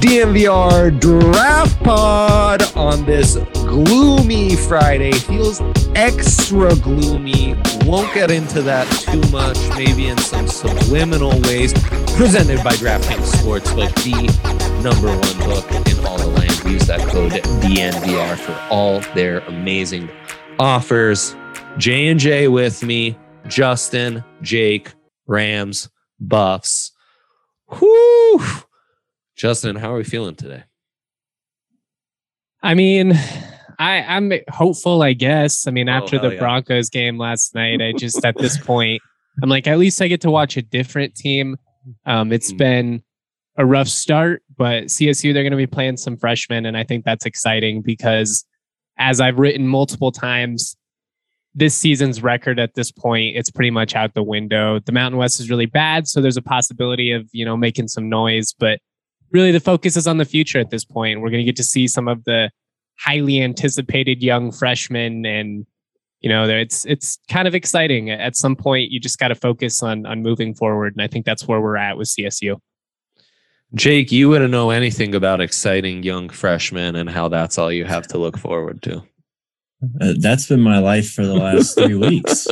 DNVR Draft Pod on this gloomy Friday. Feels extra gloomy. Won't get into that too much, maybe in some subliminal ways. Presented by DraftKings Sportsbook, the number one book in all the land. Use that code DNVR for all their amazing offers. J&J with me, Justin, Jake, Rams, Buffs. Whoo! Justin, how are we feeling today? I mean, I'm hopeful, I guess. I mean, after the Broncos game last night, I just, at this point, I'm like, at least I get to watch a different team. It's been a rough start, but CSU, they're going to be playing some freshmen, and I think that's exciting because, as I've written multiple times, this season's record at this point, it's pretty much out the window. The Mountain West is really bad, so there's a possibility of, making some noise, but really the focus is on the future at this point. We're going to get to see some of the highly anticipated young freshmen, and it's kind of exciting. At some point, you just got to focus on moving forward, and I think that's where we're at with CSU. Jake, you wouldn't know anything about exciting young freshmen and how that's all you have to look forward to. That's been my life for the last 3 weeks.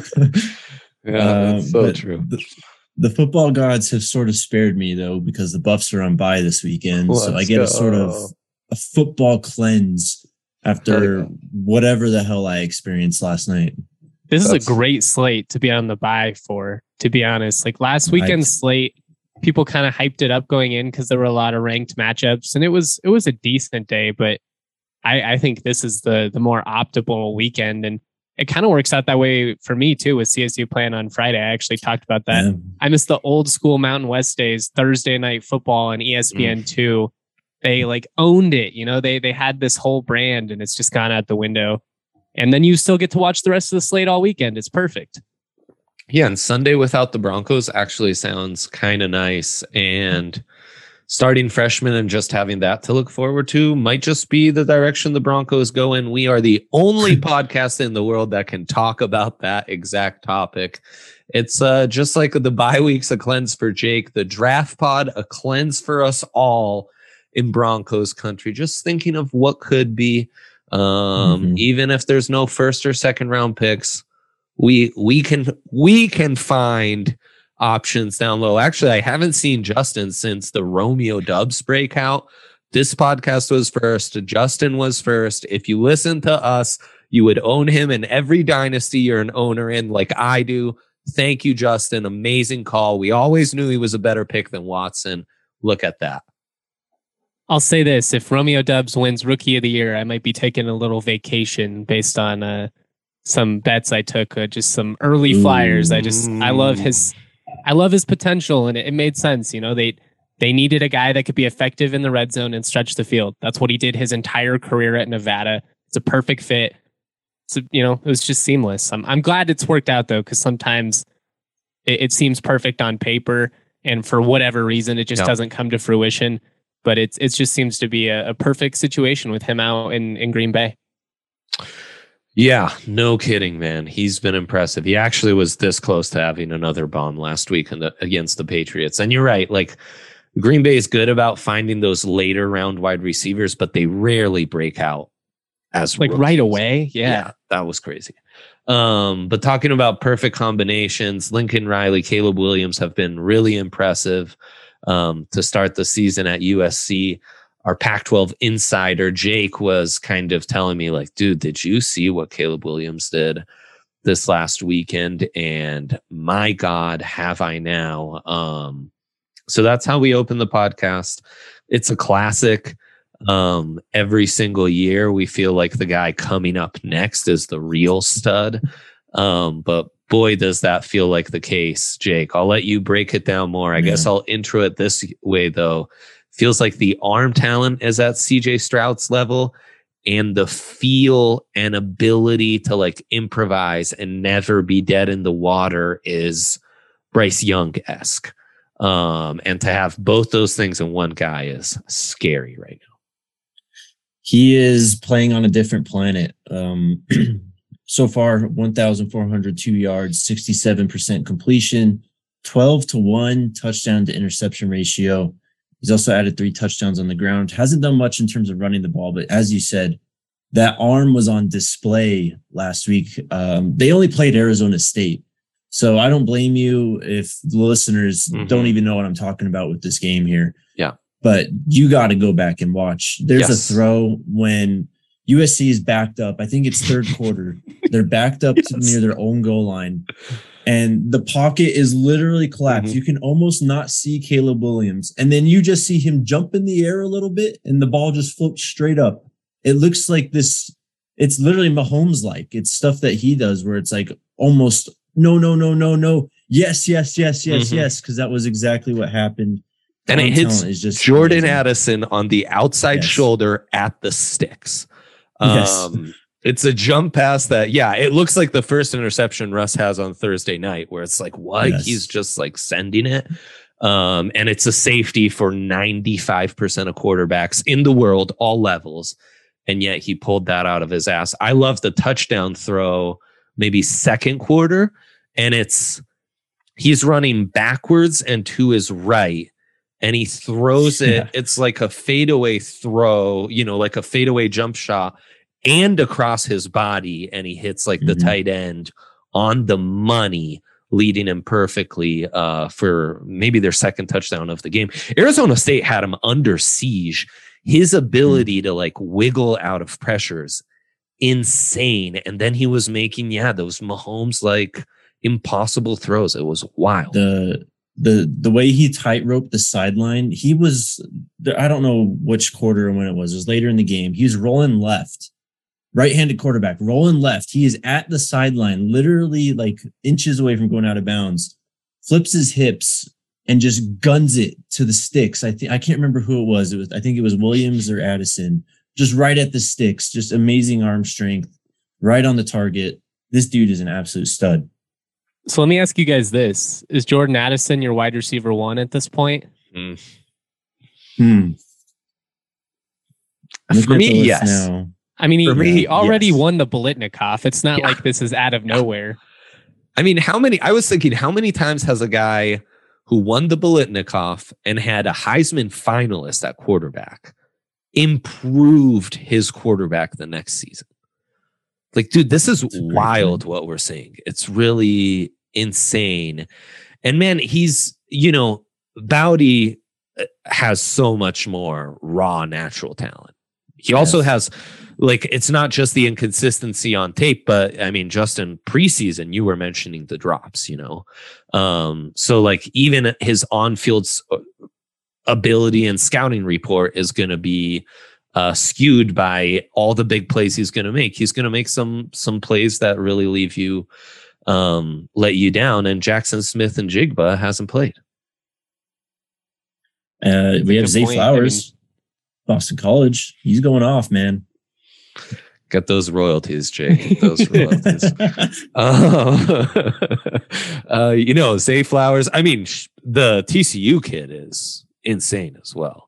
Yeah, that's so true. The football gods have sort of spared me, though, because the Buffs are on bye this weekend. So I get a sort of a football cleanse after whatever the hell I experienced last night. This is a great slate to be on the bye for, to be honest. Like last weekend's slate, people kind of hyped it up going in because there were a lot of ranked matchups, and it was a decent day, but I think this is the more optimal weekend, and it kind of works out that way for me too with CSU playing on Friday. I actually talked about that. Yeah. I miss the old school Mountain West days, Thursday night football and ESPN2. They owned it. They had this whole brand, and it's just gone out the window. And then you still get to watch the rest of the slate all weekend. It's perfect. Yeah, and Sunday without the Broncos actually sounds kind of nice. And starting freshmen and just having that to look forward to might just be the direction the Broncos go in. We are the only podcast in the world that can talk about that exact topic. It's just like the bye week's a cleanse for Jake, the draft pod, a cleanse for us all in Broncos country. Just thinking of what could be, even if there's no first or second round picks, we can find options down low. Actually, I haven't seen Justin since the Romeo Dubs breakout. This podcast was first. Justin was first. If you listen to us, you would own him in every dynasty you're an owner in, like I do. Thank you, Justin. Amazing call. We always knew he was a better pick than Watson. Look at that. I'll say this. If Romeo Dubs wins Rookie of the Year, I might be taking a little vacation based on some bets I took, just some early flyers. I love his potential, and it made sense. They needed a guy that could be effective in the red zone and stretch the field. That's what he did his entire career at Nevada. It's a perfect fit. So, it was just seamless. I'm glad it's worked out, though, because sometimes it seems perfect on paper, and for whatever reason, it just doesn't come to fruition. But it just seems to be a perfect situation with him out in Green Bay. Yeah, no kidding, man. He's been impressive. He actually was this close to having another bomb last week against the Patriots. And you're right. Green Bay is good about finding those later round wide receivers, but they rarely break out as rookies. Right away. Yeah, that was crazy. But talking about perfect combinations, Lincoln Riley, Caleb Williams have been really impressive to start the season at USC. Our Pac-12 insider, Jake, was kind of telling me, dude, did you see what Caleb Williams did this last weekend? And my God, have I now. So that's how we open the podcast. It's a classic. Every single year, we feel like the guy coming up next is the real stud. But boy, does that feel like the case, Jake. I'll let you break it down more. I guess I'll intro it this way, though. Feels like the arm talent is at CJ Stroud's level, and the feel and ability to improvise and never be dead in the water is Bryce Young-esque. And to have both those things in one guy is scary right now. He is playing on a different planet. So far, 1,402 yards, 67% completion, 12-1 touchdown to interception ratio. He's also added 3 touchdowns on the ground. Hasn't done much in terms of running the ball, but as you said, that arm was on display last week. They only played Arizona State. So I don't blame you if the listeners don't even know what I'm talking about with this game here. Yeah. But you got to go back and watch. There's a throw when USC is backed up. I think it's third quarter. They're backed up to near their own goal line. And the pocket is literally collapsed. You can almost not see Caleb Williams. And then you just see him jump in the air a little bit and the ball just floats straight up. It looks like this. It's literally Mahomes-like. It's stuff that he does where it's like almost no. Yes. Because that was exactly what happened. And it hits just Jordan Addison on the outside shoulder at the sticks. It's a jump pass that, it looks like the first interception Russ has on Thursday night, where it's like, what? He's just like sending it. And it's a safety for 95% of quarterbacks in the world, all levels. And yet he pulled that out of his ass. I love the touchdown throw, maybe second quarter. And he's running backwards and to his right. And he throws it. It's like a fadeaway throw, like a fadeaway jump shot and across his body. And he hits like the tight end on the money, leading him perfectly for maybe their second touchdown of the game. Arizona State had him under siege. His ability to like wiggle out of pressures, insane. And then he was making, those Mahomes like impossible throws. It was wild. The way he tightrope the sideline, he was, I don't know which quarter and when it was later in the game. He was rolling left, right-handed quarterback, rolling left. He is at the sideline, literally like inches away from going out of bounds, flips his hips and just guns it to the sticks. I can't remember who it was. I think it was Williams or Addison, just right at the sticks, just amazing arm strength, right on the target. This dude is an absolute stud. So let me ask you guys this. Is Jordan Addison your wide receiver 1 at this point? For me, yes. Now. I mean, he already won the Biletnikoff. It's not like this is out of nowhere. I mean, how many times has a guy who won the Biletnikoff and had a Heisman finalist at quarterback improved his quarterback the next season? Like, dude, this is wild what we're seeing. It's really insane. And man, he's, Bowdy has so much more raw natural talent. He also has, like, it's not just the inconsistency on tape, but I mean, just in preseason, you were mentioning the drops, so like even his on-field ability and scouting report is going to be skewed by all the big plays he's going to make. He's going to make some plays that really leave you, let you down. And Jackson Smith and Jigba hasn't played. We have Zay Flowers, Boston College. He's going off, man. Get those royalties, Jay. Get those royalties. Zay Flowers. I mean, the TCU kid is insane as well.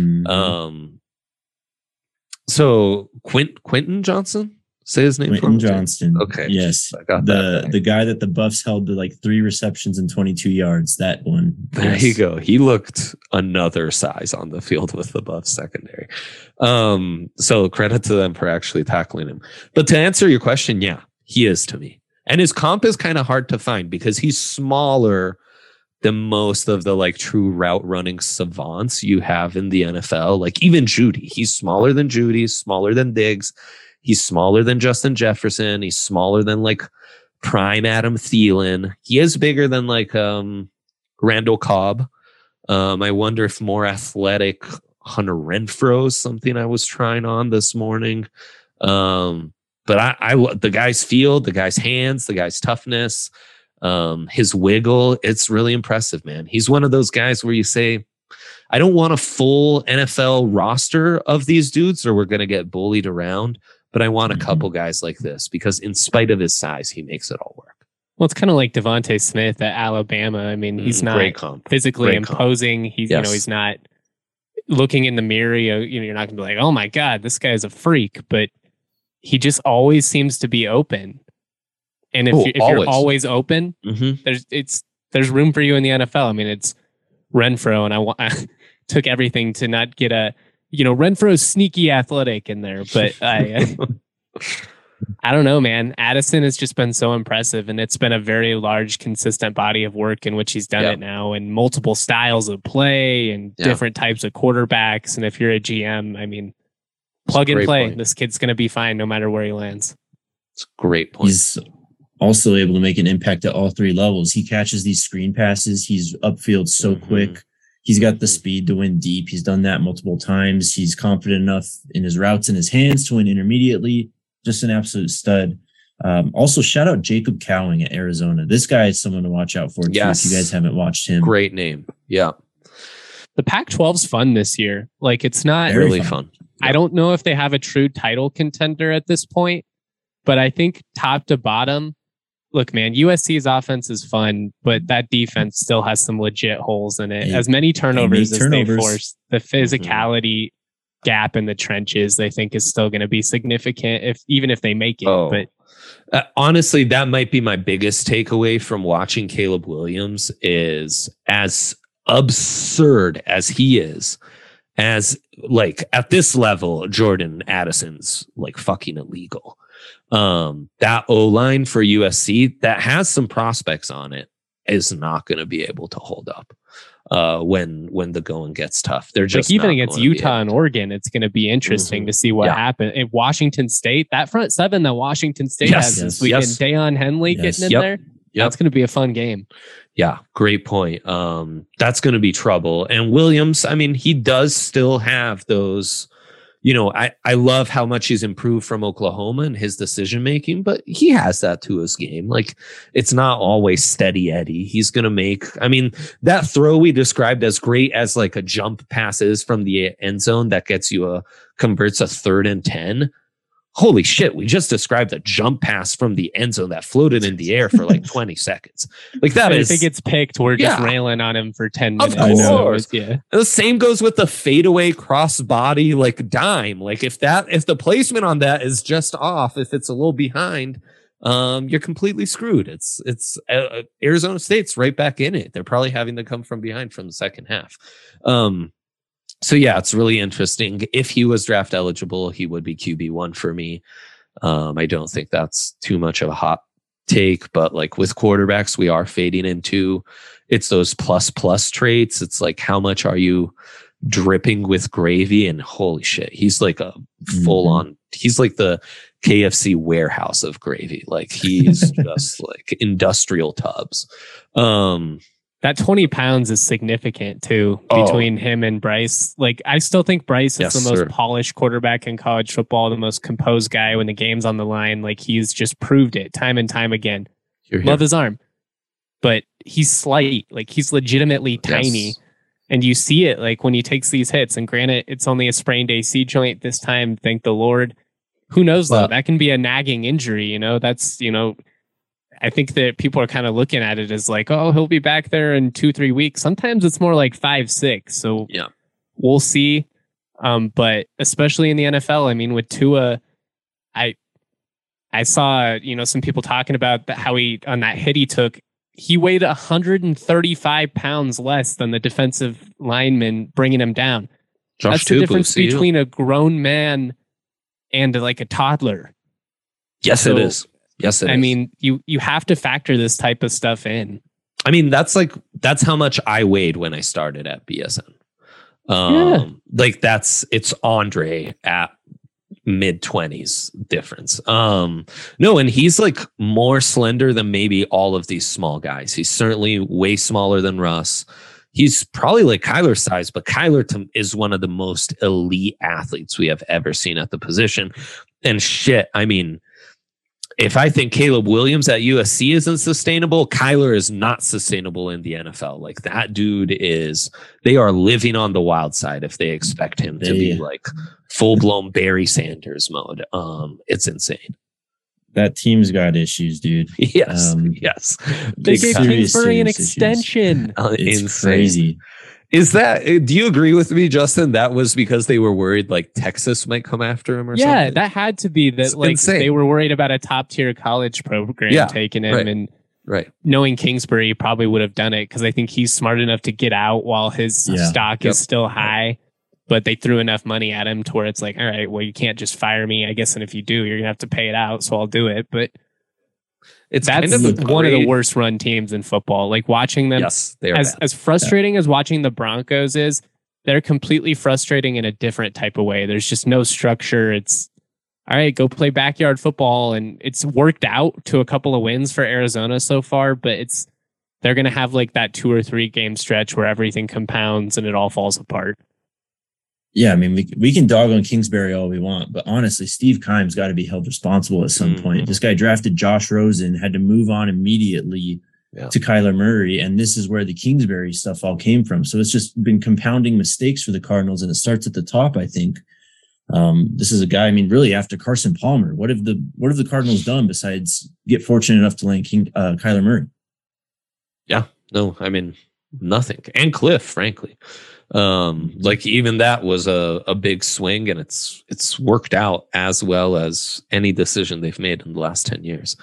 So Quentin Johnson, say his name. Quentin Johnston. Okay. Yes. I got the guy that the Buffs held to like 3 receptions and 22 yards. That one. There you go. He looked another size on the field with the Buffs secondary. So credit to them for actually tackling him. But to answer your question, yeah, he is to me. And his comp is kind of hard to find because he's smaller than most of the like true route running savants you have in the NFL. Like even Judy, he's smaller than Judy, smaller than Diggs. He's smaller than Justin Jefferson. He's smaller than like prime Adam Thielen. He is bigger than like Randall Cobb. I wonder if more athletic Hunter Renfrow is something I was trying on this morning. But I the guy's field, the guy's hands, the guy's toughness, his wiggle, it's really impressive, man. He's one of those guys where you say, I don't want a full NFL roster of these dudes or we're going to get bullied around, but I want a couple guys like this because in spite of his size, he makes it all work. Well, it's kind of like Devontae Smith at Alabama. I mean, he's not physically imposing. He's, he's not looking in the mirror. You're not going to be like, oh my God, this guy is a freak, but he just always seems to be open. And if you're always open, there's room for you in the NFL. I mean, it's Renfrow, and took everything to not get a, Renfro's sneaky athletic in there. But I don't know, man. Addison has just been so impressive, and it's been a very large, consistent body of work in which he's done it now, and multiple styles of play and different types of quarterbacks. And if you're a GM, I mean, plug and play. Point. This kid's going to be fine no matter where he lands. It's a great point. He's also able to make an impact at all three levels. He catches these screen passes. He's upfield so quick. He's got the speed to win deep. He's done that multiple times. He's confident enough in his routes in his hands to win intermediately. Just an absolute stud. Also, shout out Jacob Cowing at Arizona. This guy is someone to watch out for, too, if you guys haven't watched him. Great name. Yeah. The Pac-12's fun this year. Like, it's not really fun. I don't know if they have a true title contender at this point, but I think top to bottom, look, man, USC's offense is fun, but that defense still has some legit holes in it. As many turnovers as they force, the physicality gap in the trenches, I think, is still going to be significant, even if they make it. But honestly, that might be my biggest takeaway from watching Caleb Williams is as absurd as he is, as like at this level, Jordan Addison's like fucking illegal. That O-line for USC that has some prospects on it is not going to be able to hold up. When the going gets tough, they're just like, even against Utah and Oregon, it's going to be interesting to see what happens. In Washington State, that front seven that Washington State has this weekend, Deion Henley getting in there, that's going to be a fun game. Yeah, great point. That's going to be trouble. And Williams, I mean, he does still have those. I love how much he's improved from Oklahoma and his decision making, but he has that to his game. Like, it's not always steady Eddie. He's going to make, I mean, that throw we described as great as like a jump passes from the end zone that gets you converts a 3rd and 10. Holy shit, we just described a jump pass from the end zone that floated in the air for like 20 seconds. Like that If it gets picked, we're just railing on him for 10 minutes. Of course. And the same goes with the fadeaway crossbody like dime. Like if the placement on that is just off, if it's a little behind, you're completely screwed. It's Arizona State's right back in it. They're probably having to come from behind from the second half. So yeah, it's really interesting. If he was draft eligible, he would be QB1 for me. I don't think that's too much of a hot take, but like with quarterbacks, we are fading into it's those plus traits. It's like, how much are you dripping with gravy? And holy shit, he's like a full on, he's like the KFC warehouse of gravy. Like he's just like industrial tubs. That 20 pounds is significant too between him and Bryce. Like, I still think Bryce is the most polished quarterback in college football, the most composed guy when the game's on the line. Like, he's just proved it time and time again. Love his arm, but he's slight. Like, he's legitimately tiny. And you see it like when he takes these hits. And granted, it's only a sprained AC joint this time. Thank the Lord. Who knows though? That can be a nagging injury. That's, I think that people are kind of looking at it as like, oh, he'll be back there in 2-3 weeks. Sometimes it's more like 5-6. So we'll see. But especially in the NFL, I mean, with Tua, I saw, some people talking about how he, on that hit he took, he weighed 135 pounds less than the defensive lineman bringing him down. That's the difference between a grown man and like a toddler. Yes, it is. Yes, it is. I mean, you have to factor this type of stuff in. I mean, that's how much I weighed when I started at BSN. Like it's Andre at mid-20s difference. No, and he's like more slender than maybe all of these small guys. He's certainly way smaller than Russ. He's probably like Kyler's size, but Kyler is one of the most elite athletes we have ever seen at the position. And shit, I mean, if I think Caleb Williams at USC isn't sustainable, Kyler is not sustainable in the NFL. Like that dude they are living on the wild side if they expect him to be like full-blown Barry Sanders mode. It's insane. That team's got issues, dude. Yes, yes. They gave Kingsbury an extension. It's insane. Crazy. Is that? Do you agree with me, Justin? That was because they were worried like Texas might come after him or something? Yeah, that had to be that. It's like insane. They were worried about a top tier college program taking him, and Right. Knowing Kingsbury probably would have done it because I think he's smart enough to get out while his stock is still high. But they threw enough money at him to where it's like, all right, well, you can't just fire me, I guess. And if you do, you're going to have to pay it out. So I'll do it. But that's kind of one of the worst run teams in football. Like watching them, they are as frustrating as watching the Broncos is, they're completely frustrating in a different type of way. There's just no structure. It's all right, go play backyard football. And it's worked out to a couple of wins for Arizona so far, but they're going to have like that 2 or 3 game stretch where everything compounds and it all falls apart. Yeah, I mean, we can dog on Kingsbury all we want, but honestly, Steve Keim's got to be held responsible at some point. This guy drafted Josh Rosen, had to move on immediately to Kyler Murray, and this is where the Kingsbury stuff all came from. So it's just been compounding mistakes for the Cardinals, and it starts at the top, I think. This is a guy, I mean, really after Carson Palmer, what have the Cardinals done besides get fortunate enough to land Kyler Murray? Yeah, no, I mean, nothing. And Cliff, frankly. Like even that was a big swing, and it's worked out as well as any decision they've made in the last 10 years.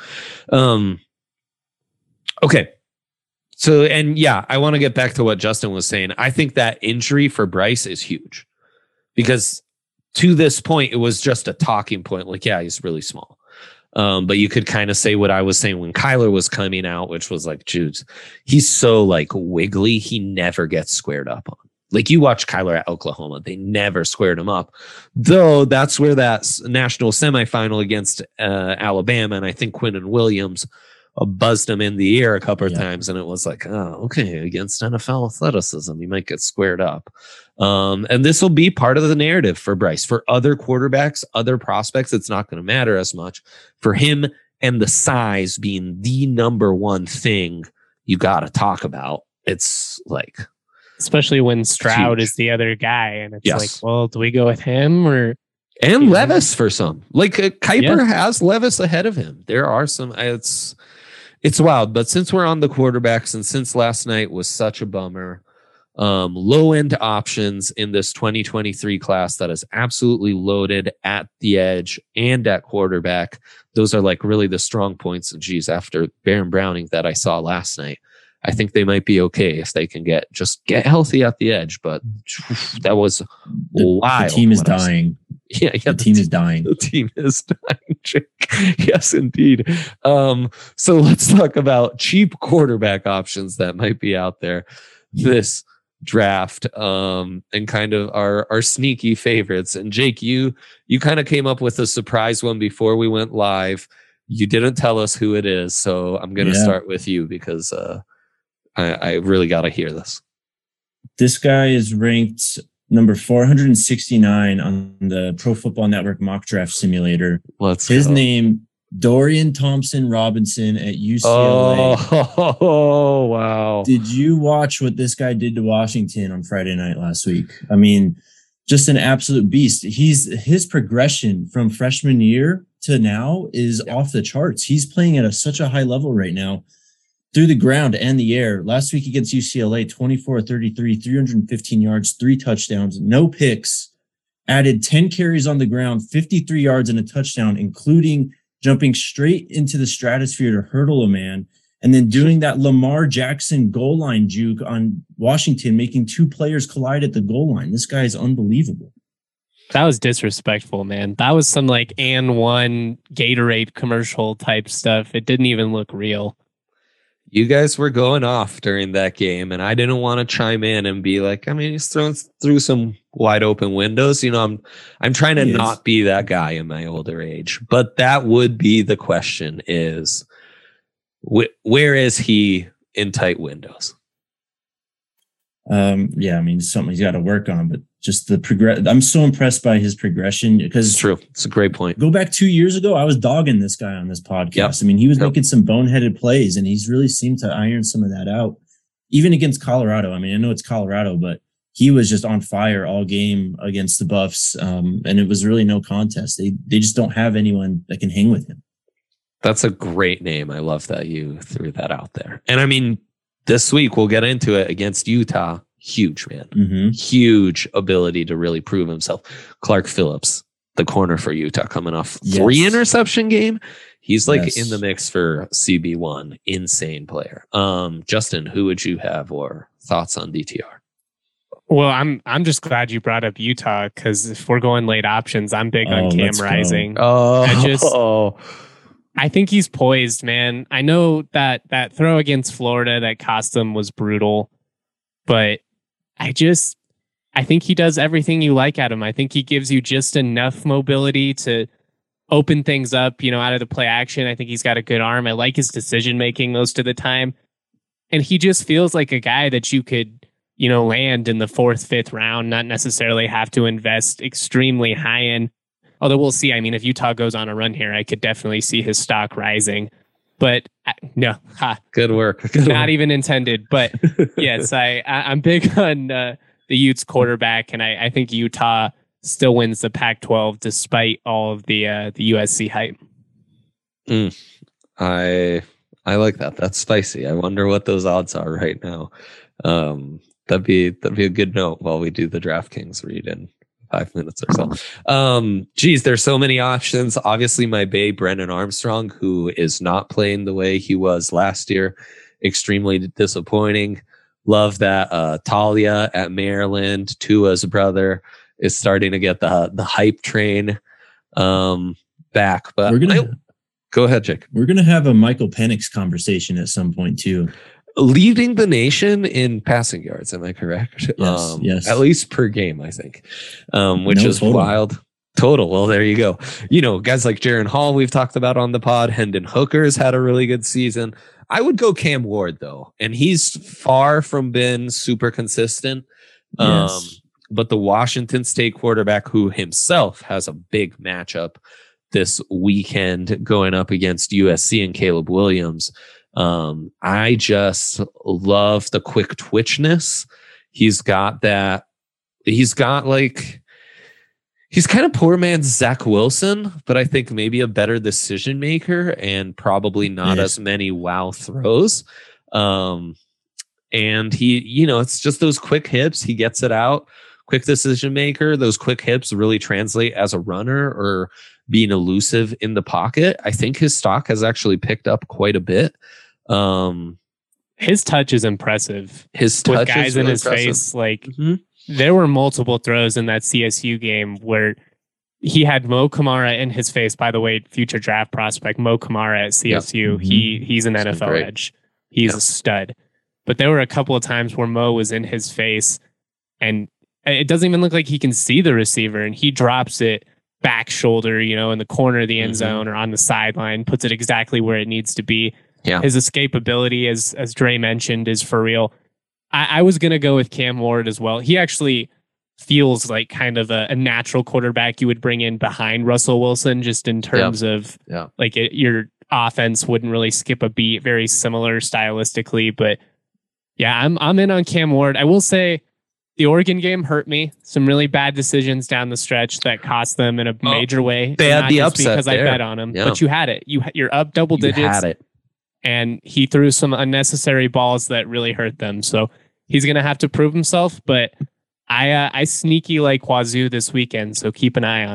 Okay. So, and yeah, I want to get back to what Justin was saying. I think that injury for Bryce is huge because to this point, it was just a talking point. Like, yeah, he's really small. But you could kind of say what I was saying when Kyler was coming out, which was like, dude, he's so like wiggly. He never gets squared up on. Like you watch Kyler at Oklahoma, they never squared him up. Though that's where that national semifinal against Alabama, and I think Quinnen Williams buzzed him in the ear a couple of times, and it was like, oh, okay, against NFL athleticism, you might get squared up. And this will be part of the narrative for Bryce. For other quarterbacks, other prospects, it's not going to matter as much. For him and the size being the number one thing you got to talk about, it's like... Especially when Stroud is the other guy, and it's like, well, do we go with him or... And Levis for some. Like Kuiper has Levis ahead of him. There are some... It's wild, but since we're on the quarterbacks and since last night was such a bummer, low-end options in this 2023 class that is absolutely loaded at the edge and at quarterback. Those are like really the strong points. And geez, after Baron Browning that I saw last night, I think they might be okay if they can get healthy at the edge. But that was wild. The team is dying. Yeah, the team is dying. The team is dying, Jake. Yes, indeed. So let's talk about cheap quarterback options that might be out there this draft, and kind of our sneaky favorites. And Jake, you kind of came up with a surprise one before we went live. You didn't tell us who it is, so I'm going to start with you because I really got to hear this. This guy is ranked number 469 on the Pro Football Network mock draft simulator. His name, Dorian Thompson-Robinson at UCLA. Oh, wow. Did you watch what this guy did to Washington on Friday night last week? I mean, just an absolute beast. His progression from freshman year to now is off the charts. He's playing at such a high level right now. Through the ground and the air. Last week against UCLA, 24-33, 315 yards, 3 touchdowns, no picks, added 10 carries on the ground, 53 yards and a touchdown, including jumping straight into the stratosphere to hurdle a man, and then doing that Lamar Jackson goal line juke on Washington, making 2 players collide at the goal line. This guy is unbelievable. That was disrespectful, man. That was some like And One Gatorade commercial type stuff. It didn't even look real. You guys were going off during that game, and I didn't want to chime in and be like, I mean, he's throwing through some wide open windows. You know, I'm trying to not be that guy in my older age, but that would be the question: is where is he in tight windows? Yeah, I mean, it's something he's got to work on, but just the progress. I'm so impressed by his progression because it's true. It's a great point. Go back 2 years ago, I was dogging this guy on this podcast. Yep. I mean, he was making some boneheaded plays, and he's really seemed to iron some of that out, even against Colorado. I mean, I know it's Colorado, but he was just on fire all game against the Buffs, and it was really no contest. They just don't have anyone that can hang with him. That's a great name. I love that you threw that out there. And I mean, this week we'll get into it against Utah. Huge, man. Mm-hmm. Huge ability to really prove himself. Clark Phillips, the corner for Utah, coming off 3 interception game. He's like in the mix for CB1. Insane player. Justin, who would you have or thoughts on DTR? Well, I'm just glad you brought up Utah, because if we're going late options, I'm big on Cam Rising. I think he's poised, man. I know that throw against Florida that cost them was brutal, but I think he does everything you like at him. I think he gives you just enough mobility to open things up, out of the play action. I think he's got a good arm. I like his decision making most of the time. And he just feels like a guy that you could, land in the 4th, 5th round, not necessarily have to invest extremely high in. Although we'll see. I mean, if Utah goes on a run here, I could definitely see his stock rising. But no, good work. Not even intended. But yes, I'm big on the Utes quarterback, and I think Utah still wins the Pac-12 despite all of the USC hype. I like that. That's spicy. I wonder what those odds are right now. That'd be a good note while we do the DraftKings read in 5 minutes or so. There's so many options. Obviously, my bae Brennan Armstrong, who is not playing the way he was last year, extremely disappointing. Love that Talia at Maryland, Tua's brother, is starting to get the hype train back. But go ahead, Jake. We're gonna have a Michael Penix conversation at some point too. Leading the nation in passing yards, am I correct? Yes. At least per game, I think, which is total. Wild. Total. Well, there you go. Guys like Jaron Hall, we've talked about on the pod. Hendon Hooker's had a really good season. I would go Cam Ward, though, and he's far from been super consistent. Yes. But the Washington State quarterback, who himself has a big matchup this weekend going up against USC and Caleb Williams, I just love the quick twitchness. He's got that. He's kind of poor man's Zach Wilson, but I think maybe a better decision maker and probably not as many wow throws. And he, it's just those quick hips. He gets it out. Quick decision maker. Those quick hips really translate as a runner or being elusive in the pocket. I think his stock has actually picked up quite a bit. His touch is impressive. His touch with guys is really in his impressive. face. There were multiple throws in that CSU game where he had Mo Kamara in his face. By the way, future draft prospect Mo Kamara at CSU. Yep. He's an NFL edge. He's a stud. But there were a couple of times where Mo was in his face, and it doesn't even look like he can see the receiver, and he drops it back shoulder, in the corner of the end zone or on the sideline, puts it exactly where it needs to be. Yeah. His escapability, as Dre mentioned, is for real. I was going to go with Cam Ward as well. He actually feels like kind of a natural quarterback you would bring in behind Russell Wilson, just in terms of your offense wouldn't really skip a beat, very similar stylistically. But yeah, I'm in on Cam Ward. I will say the Oregon game hurt me. Some really bad decisions down the stretch that cost them in a major way. They had the upset because there. I bet on him, but you had it. You're up double digits. You had it. And he threw some unnecessary balls that really hurt them. So he's going to have to prove himself. But I sneaky like Wazoo this weekend, so keep an eye on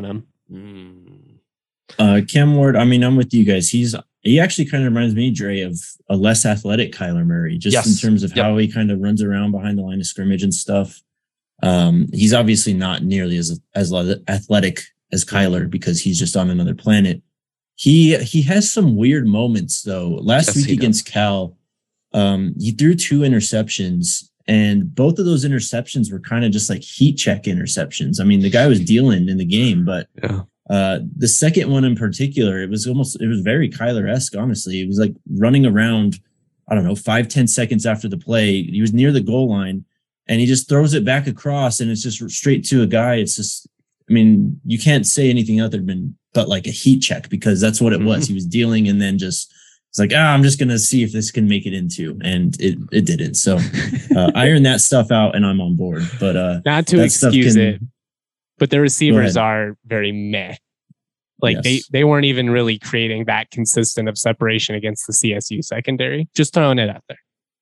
him. Cam Ward, I'm with you guys. He actually kind of reminds me, Dre, of a less athletic Kyler Murray, just in terms of how he kind of runs around behind the line of scrimmage and stuff. He's obviously not nearly as athletic as Kyler because he's just on another planet. He has some weird moments though. Last week against Cal, he threw 2 interceptions, and both of those interceptions were kind of just like heat check interceptions. I mean, the guy was dealing in the game, but the second one in particular, it was very Kyler-esque, honestly. It was like running around, 5-10 seconds after the play. He was near the goal line and he just throws it back across and it's just straight to a guy. It's just, you can't say anything other but like a heat check, because that's what it was. He was dealing and then just, it's like, I'm just going to see if this can make it into, and it didn't. So iron that stuff out and I'm on board, but not to excuse it, but the receivers are very meh. Like they weren't even really creating that consistent of separation against the CSU secondary. Just throwing it out there.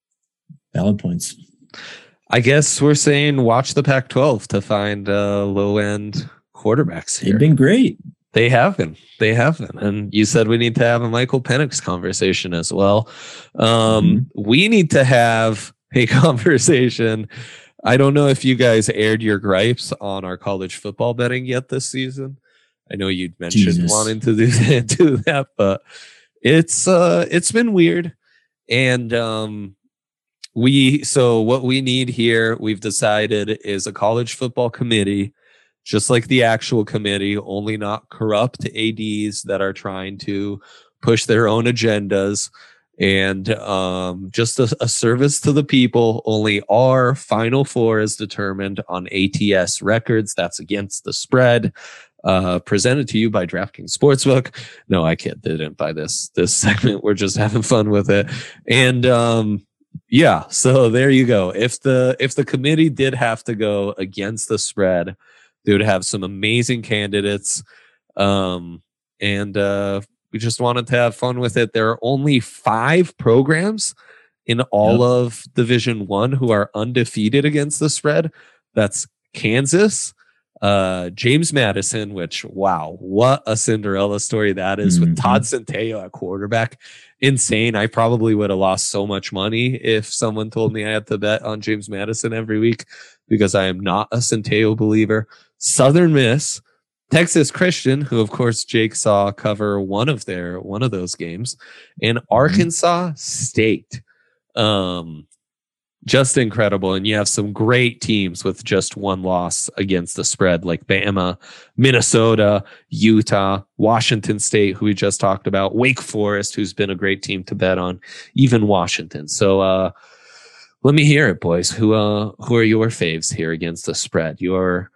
Valid points. I guess we're saying watch the Pac-12 to find low end quarterbacks here. They've been great. They have been. And you said we need to have a Michael Penix conversation as well. We need to have a conversation. I don't know if you guys aired your gripes on our college football betting yet this season. I know you'd mentioned wanting to do that, but it's been weird. And what we need here, we've decided, is a college football committee, just like the actual committee, only not corrupt ADs that are trying to push their own agendas, and just a service to the people. Only our Final Four is determined on ATS records. That's against the spread. Presented to you by DraftKings Sportsbook. No, I didn't buy this segment. We're just having fun with it. And yeah, so there you go. If the committee did have to go against the spread, they would have some amazing candidates. And we just wanted to have fun with it. There are only 5 programs in all of Division I who are undefeated against the spread. That's Kansas, James Madison, which, wow, what a Cinderella story that is, with Todd Centeio at quarterback. Insane. I probably would have lost so much money if someone told me I had to bet on James Madison every week, because I am not a Centeio believer. Southern Miss, Texas Christian, who of course Jake saw cover one of those games, and Arkansas State. Just incredible. And you have some great teams with just one loss against the spread, like Bama, Minnesota, Utah, Washington State, who we just talked about, Wake Forest, who's been a great team to bet on, even Washington. So let me hear it, boys. Who are your faves here against the spread? Your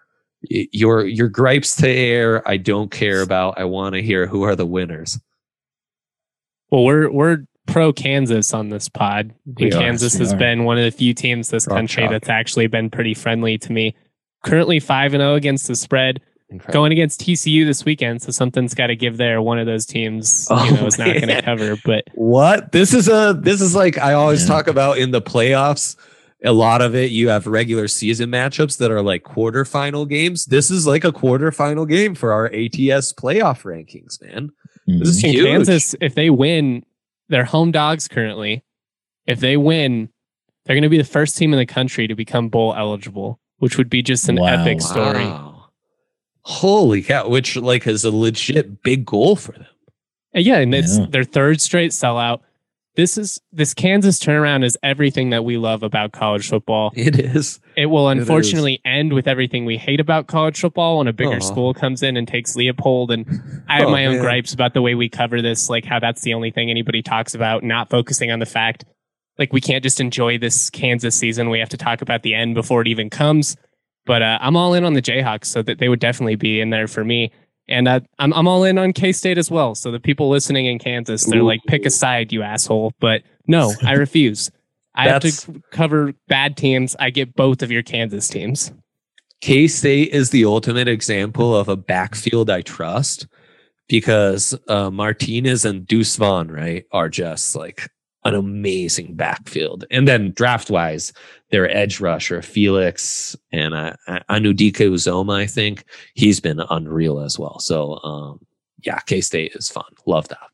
gripes to air, I don't care about. I want to hear who are the winners. Well, we're pro Kansas on this pod. Kansas has been one of the few teams this country that's actually been pretty friendly to me. Currently 5-0 against the spread. Incredible. Going against TCU this weekend, so something's got to give there. One of those teams, is not going to cover. But what? This is like I always talk about in the playoffs. A lot of it, you have regular season matchups that are like quarterfinal games. This is like a quarterfinal game for our ATS playoff rankings, man. This is huge. Kansas, if they win, they're home dogs currently. If they win, they're going to be the first team in the country to become bowl eligible, which would be just an epic story. Wow. Holy cow, which like is a legit big goal for them. Yeah, and it's their third straight sellout. This Kansas turnaround is everything that we love about college football. It is. It will unfortunately end with everything we hate about college football when a bigger school comes in and takes Leopold. And I have my own gripes about the way we cover this, like how that's the only thing anybody talks about, not focusing on the fact, like we can't just enjoy this Kansas season. We have to talk about the end before it even comes. But I'm all in on the Jayhawks, so that they would definitely be in there for me. And I'm all in on K-State as well. So the people listening in Kansas, they're like, pick a side, you asshole. But no, I refuse. I have to cover bad teams. I get both of your Kansas teams. K-State is the ultimate example of a backfield I trust, because Martinez and Deuce Vaughn, right, are just like an amazing backfield. And then draft-wise, their edge rusher, Felix, and Anudike Uzoma, I think, he's been unreal as well. So, K-State is fun. Love that.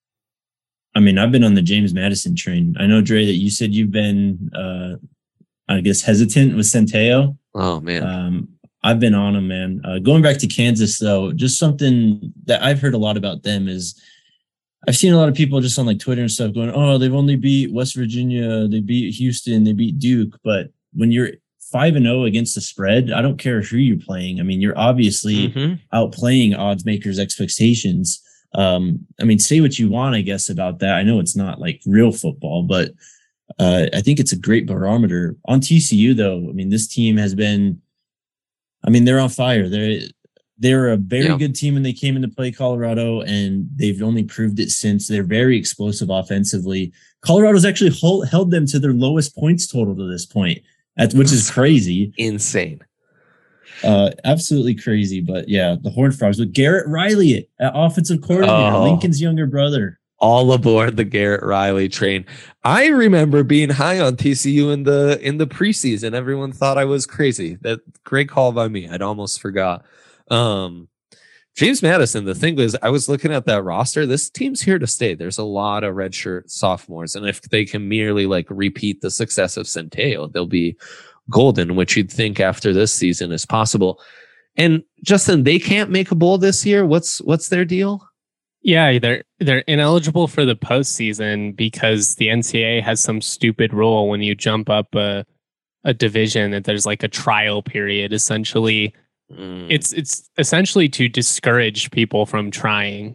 I mean, I've been on the James Madison train. I know, Dre, that you said you've been, I guess, hesitant with Centeio. Oh, man. I've been on him, man. Going back to Kansas, though, just something that I've heard a lot about them is I've seen a lot of people just on like Twitter and stuff going, oh, they've only beat West Virginia, they beat Houston, they beat Duke. But when you're 5-0 against the spread, I don't care who you're playing. I mean, you're obviously outplaying odds makers' expectations. I mean, say what you want, I guess, about that. I know it's not like real football, but I think it's a great barometer. On TCU, though, I mean, this team has been, I mean, they're on fire. They're a very good team when they came in to play Colorado, and they've only proved it since. They're very explosive offensively. Colorado's actually held them to their lowest points total to this point, which is crazy. Insane. Absolutely crazy. But yeah, the Horned Frogs with Garrett Riley at offensive coordinator, Lincoln's younger brother. All aboard the Garrett Riley train. I remember being high on TCU in the preseason. Everyone thought I was crazy. That great call by me. I'd almost forgot. If James Madison, the thing is, I was looking at that roster. This team's here to stay. There's a lot of redshirt sophomores. And if they can merely like repeat the success of Centeio, they'll be golden, which you'd think after this season is possible. And Justin, they can't make a bowl this year. What's their deal? Yeah, they're ineligible for the postseason because the NCAA has some stupid rule when you jump up a division that there's like a trial period. Essentially, it's essentially to discourage people from trying.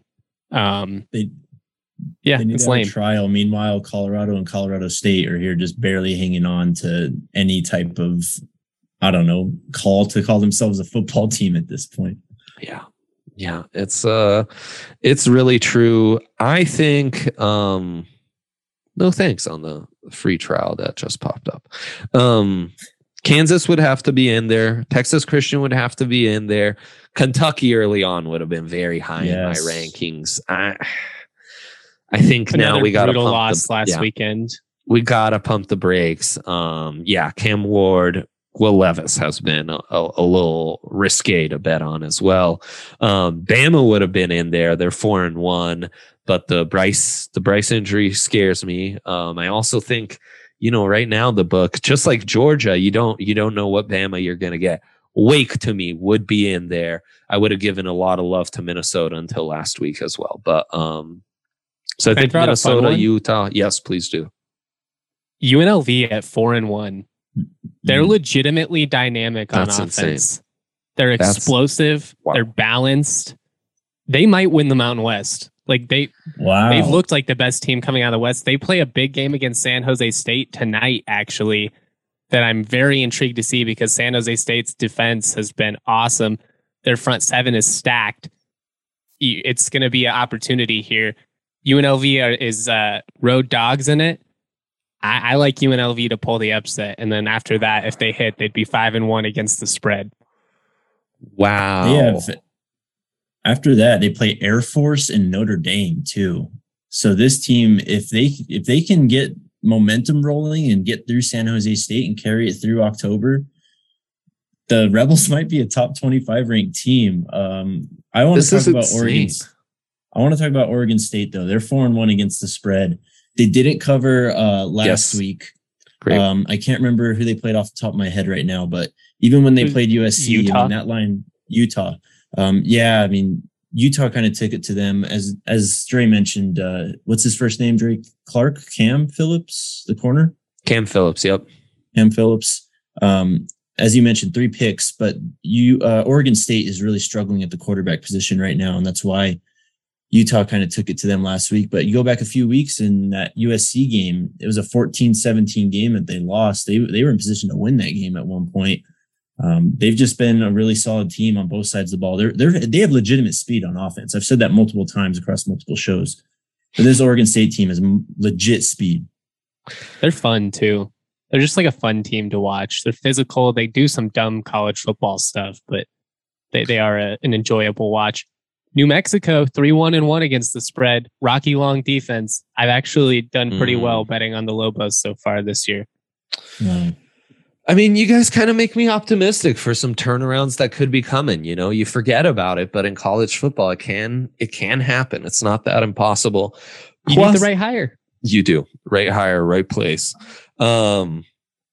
It's lame. Trial. Meanwhile, Colorado and Colorado State are here just barely hanging on to any type of, I don't know, call themselves a football team at this point. Yeah, it's really true. I think no thanks on the free trial that just popped up. Kansas would have to be in there. Texas Christian would have to be in there. Kentucky early on would have been very high in my rankings. I think now we got to pump loss last weekend. We got to pump the brakes. Cam Ward, Will Levis has been a little risque to bet on as well. Bama would have been in there. They're 4-1, but the Bryce injury scares me. I also think, right now the book, just like Georgia, you don't know what Bama you're going to get. Wake to me would be in there. I would have given a lot of love to Minnesota until last week as well. But so I think Minnesota, Utah. Yes, please do. UNLV at 4-1. They're legitimately dynamic on offense. Insane. They're explosive. Wow. They're balanced. They might win the Mountain West. They've looked like the best team coming out of the West. They play a big game against San Jose State tonight, actually, that I'm very intrigued to see because San Jose State's defense has been awesome. Their front seven is stacked. It's going to be an opportunity here. UNLV is road dogs in it. I like UNLV to pull the upset. And then after that, if they hit, they'd be 5-1 against the spread. Wow. Yeah. After that, they play Air Force and Notre Dame too. So this team, if they can get momentum rolling and get through San Jose State and carry it through October, the Rebels might be a top 25 ranked team. I want to talk about Oregon. I want to talk about Oregon State though. They're 4-1 against the spread. They didn't cover last week. Great. I can't remember who they played off the top of my head right now, but even when they played USC, Utah. that line, Utah. Utah kind of took it to them. As Dre mentioned, what's his first name, Drake? Cam Phillips, the corner? Cam Phillips, yep. Cam Phillips. As you mentioned, 3 picks, but Oregon State is really struggling at the quarterback position right now, and that's why Utah kind of took it to them last week. But you go back a few weeks in that USC game, it was a 14-17 game that they lost. They were in position to win that game at one point. They've just been a really solid team on both sides of the ball. They have legitimate speed on offense. I've said that multiple times across multiple shows. But this Oregon State team has legit speed. They're fun too. They're just like a fun team to watch. They're physical. They do some dumb college football stuff, but they are an enjoyable watch. New Mexico, 3-1 against the spread. Rocky Long defense. I've actually done pretty well betting on the Lobos so far this year. I mean, you guys kind of make me optimistic for some turnarounds that could be coming. You forget about it, but in college football, it can happen. It's not that impossible. You need the right hire. You do. Right hire, right place. UNLV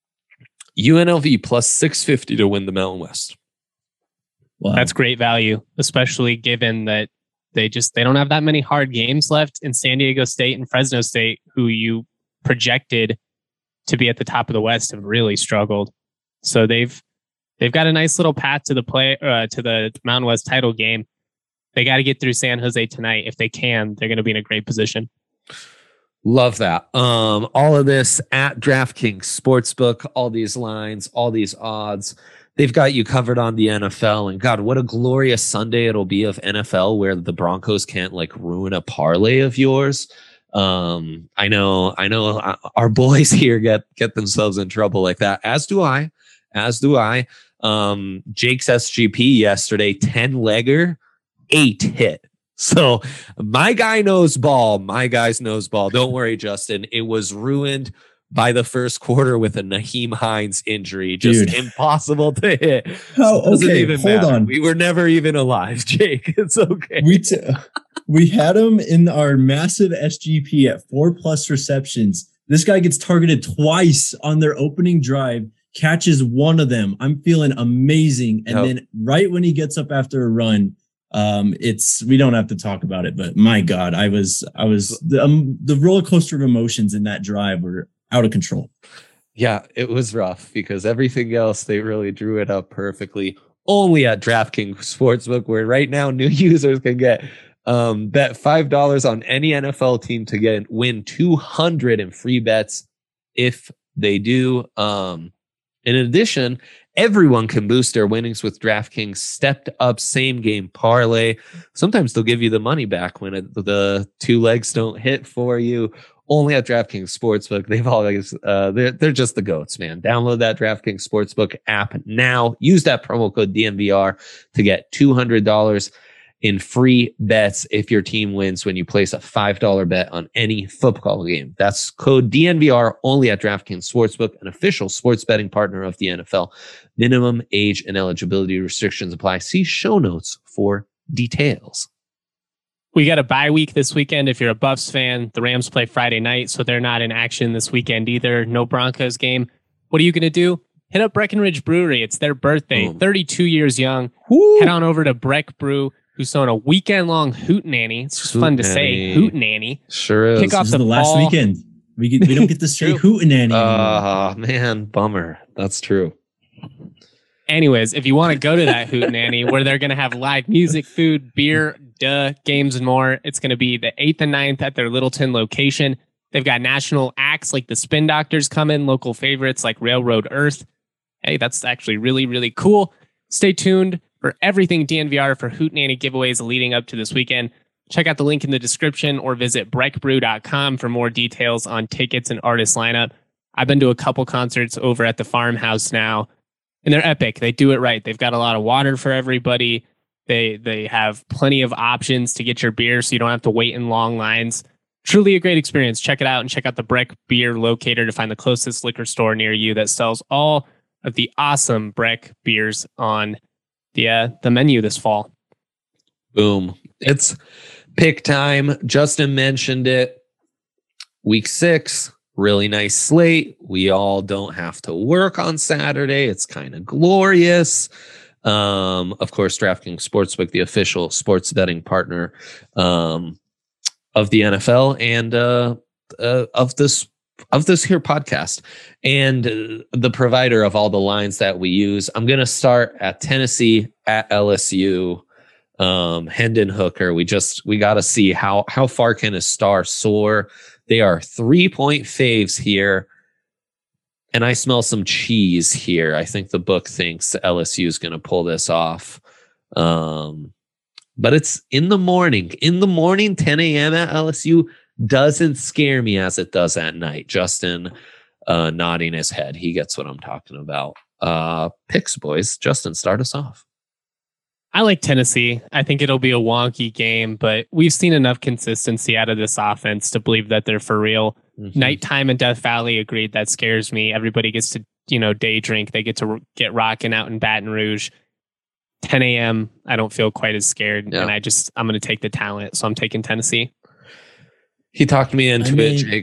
plus 650 to win the Mountain West. Wow. That's great value, especially given that they don't have that many hard games left in San Diego State and Fresno State, who you projected to be at the top of the West, have really struggled. So they've got a nice little path to the Mountain West title game. They got to get through San Jose tonight. If they can, they're going to be in a great position. Love that. All of this at DraftKings Sportsbook, all these lines, all these odds. They've got you covered on the NFL, and God, what a glorious Sunday it'll be of NFL where the Broncos can't ruin a parlay of yours. I know our boys here get themselves in trouble like that, as do I. Jake's SGP yesterday, 10-legger, 8 hit. So my guy knows ball. My guys knows ball. Don't worry, Justin. It was ruined by the first quarter with a Nyheim Hines injury. Just impossible to hit. Hold on. We were never even alive, Jake. It's okay. We had him in our massive SGP at 4+ receptions. This guy gets targeted twice on their opening drive, catches one of them. I'm feeling amazing. And then right when he gets up after a run, we don't have to talk about it, but my God, the roller coaster of emotions in that drive were out of control. Yeah, it was rough because everything else, they really drew it up perfectly. Only at DraftKings Sportsbook, where right now new users can get bet $5 on any NFL team to win $200 in free bets if they do. In addition, everyone can boost their winnings with DraftKings stepped up same game parlay. Sometimes they'll give you the money back when the two legs don't hit for you. Only at DraftKings Sportsbook. They've always they're just the goats, man. Download that DraftKings Sportsbook app now. Use that promo code DNVR to get $200 in free bets if your team wins when you place a $5 bet on any football game. That's code DNVR only at DraftKings Sportsbook, an official sports betting partner of the NFL. Minimum age and eligibility restrictions apply. See show notes for details. We got a bye week this weekend. If you're a Buffs fan, the Rams play Friday night, so they're not in action this weekend either. No Broncos game. What are you going to do? Hit up Breckenridge Brewery. It's their birthday. 32 years young. Woo. Head on over to Breck Brew, who's throwing a weekend-long hootenanny. It's just fun to say, hootenanny. Sure is. Kick off the last weekend. We don't get to say hootenanny. Oh, man, bummer. That's true. Anyways, if you want to go to that hootenanny where they're going to have live music, food, beer, games, and more, it's going to be the 8th and 9th at their Littleton location. They've got national acts like the Spin Doctors coming, local favorites like Railroad Earth. Hey, that's actually really, really cool. Stay tuned for everything DNVR for hootenanny giveaways leading up to this weekend. Check out the link in the description or visit breckbrew.com for more details on tickets and artist lineup. I've been to a couple concerts over at the Farmhouse now, and they're epic. They do it right. They've got a lot of water for everybody. They have plenty of options to get your beer so you don't have to wait in long lines. Truly a great experience. Check it out and check out the Breck Beer Locator to find the closest liquor store near you that sells all of the awesome Breck beers on the menu this fall. Boom. It's pick time. Justin mentioned it. Week 6. Really nice slate. We all don't have to work on Saturday. It's kind of glorious. Of course, DraftKings Sportsbook, the official sports betting partner of the NFL and of this here podcast, and the provider of all the lines that we use. I'm going to start at Tennessee at LSU. Hendon Hooker. We got to see how far can a star soar. They are 3-point faves here. And I smell some cheese here. I think the book thinks LSU is going to pull this off. But it's in the morning. 10 a.m. at LSU doesn't scare me as it does at night. Justin nodding his head. He gets what I'm talking about. Picks, boys. Justin, start us off. I like Tennessee. I think it'll be a wonky game, but we've seen enough consistency out of this offense to believe that they're for real. Mm-hmm. Nighttime in Death Valley, agreed. That scares me. Everybody gets to, day drink. They get to get rocking out in Baton Rouge. 10 a.m. I don't feel quite as scared, and I'm going to take the talent, so I'm taking Tennessee. He talked me into it, Jake.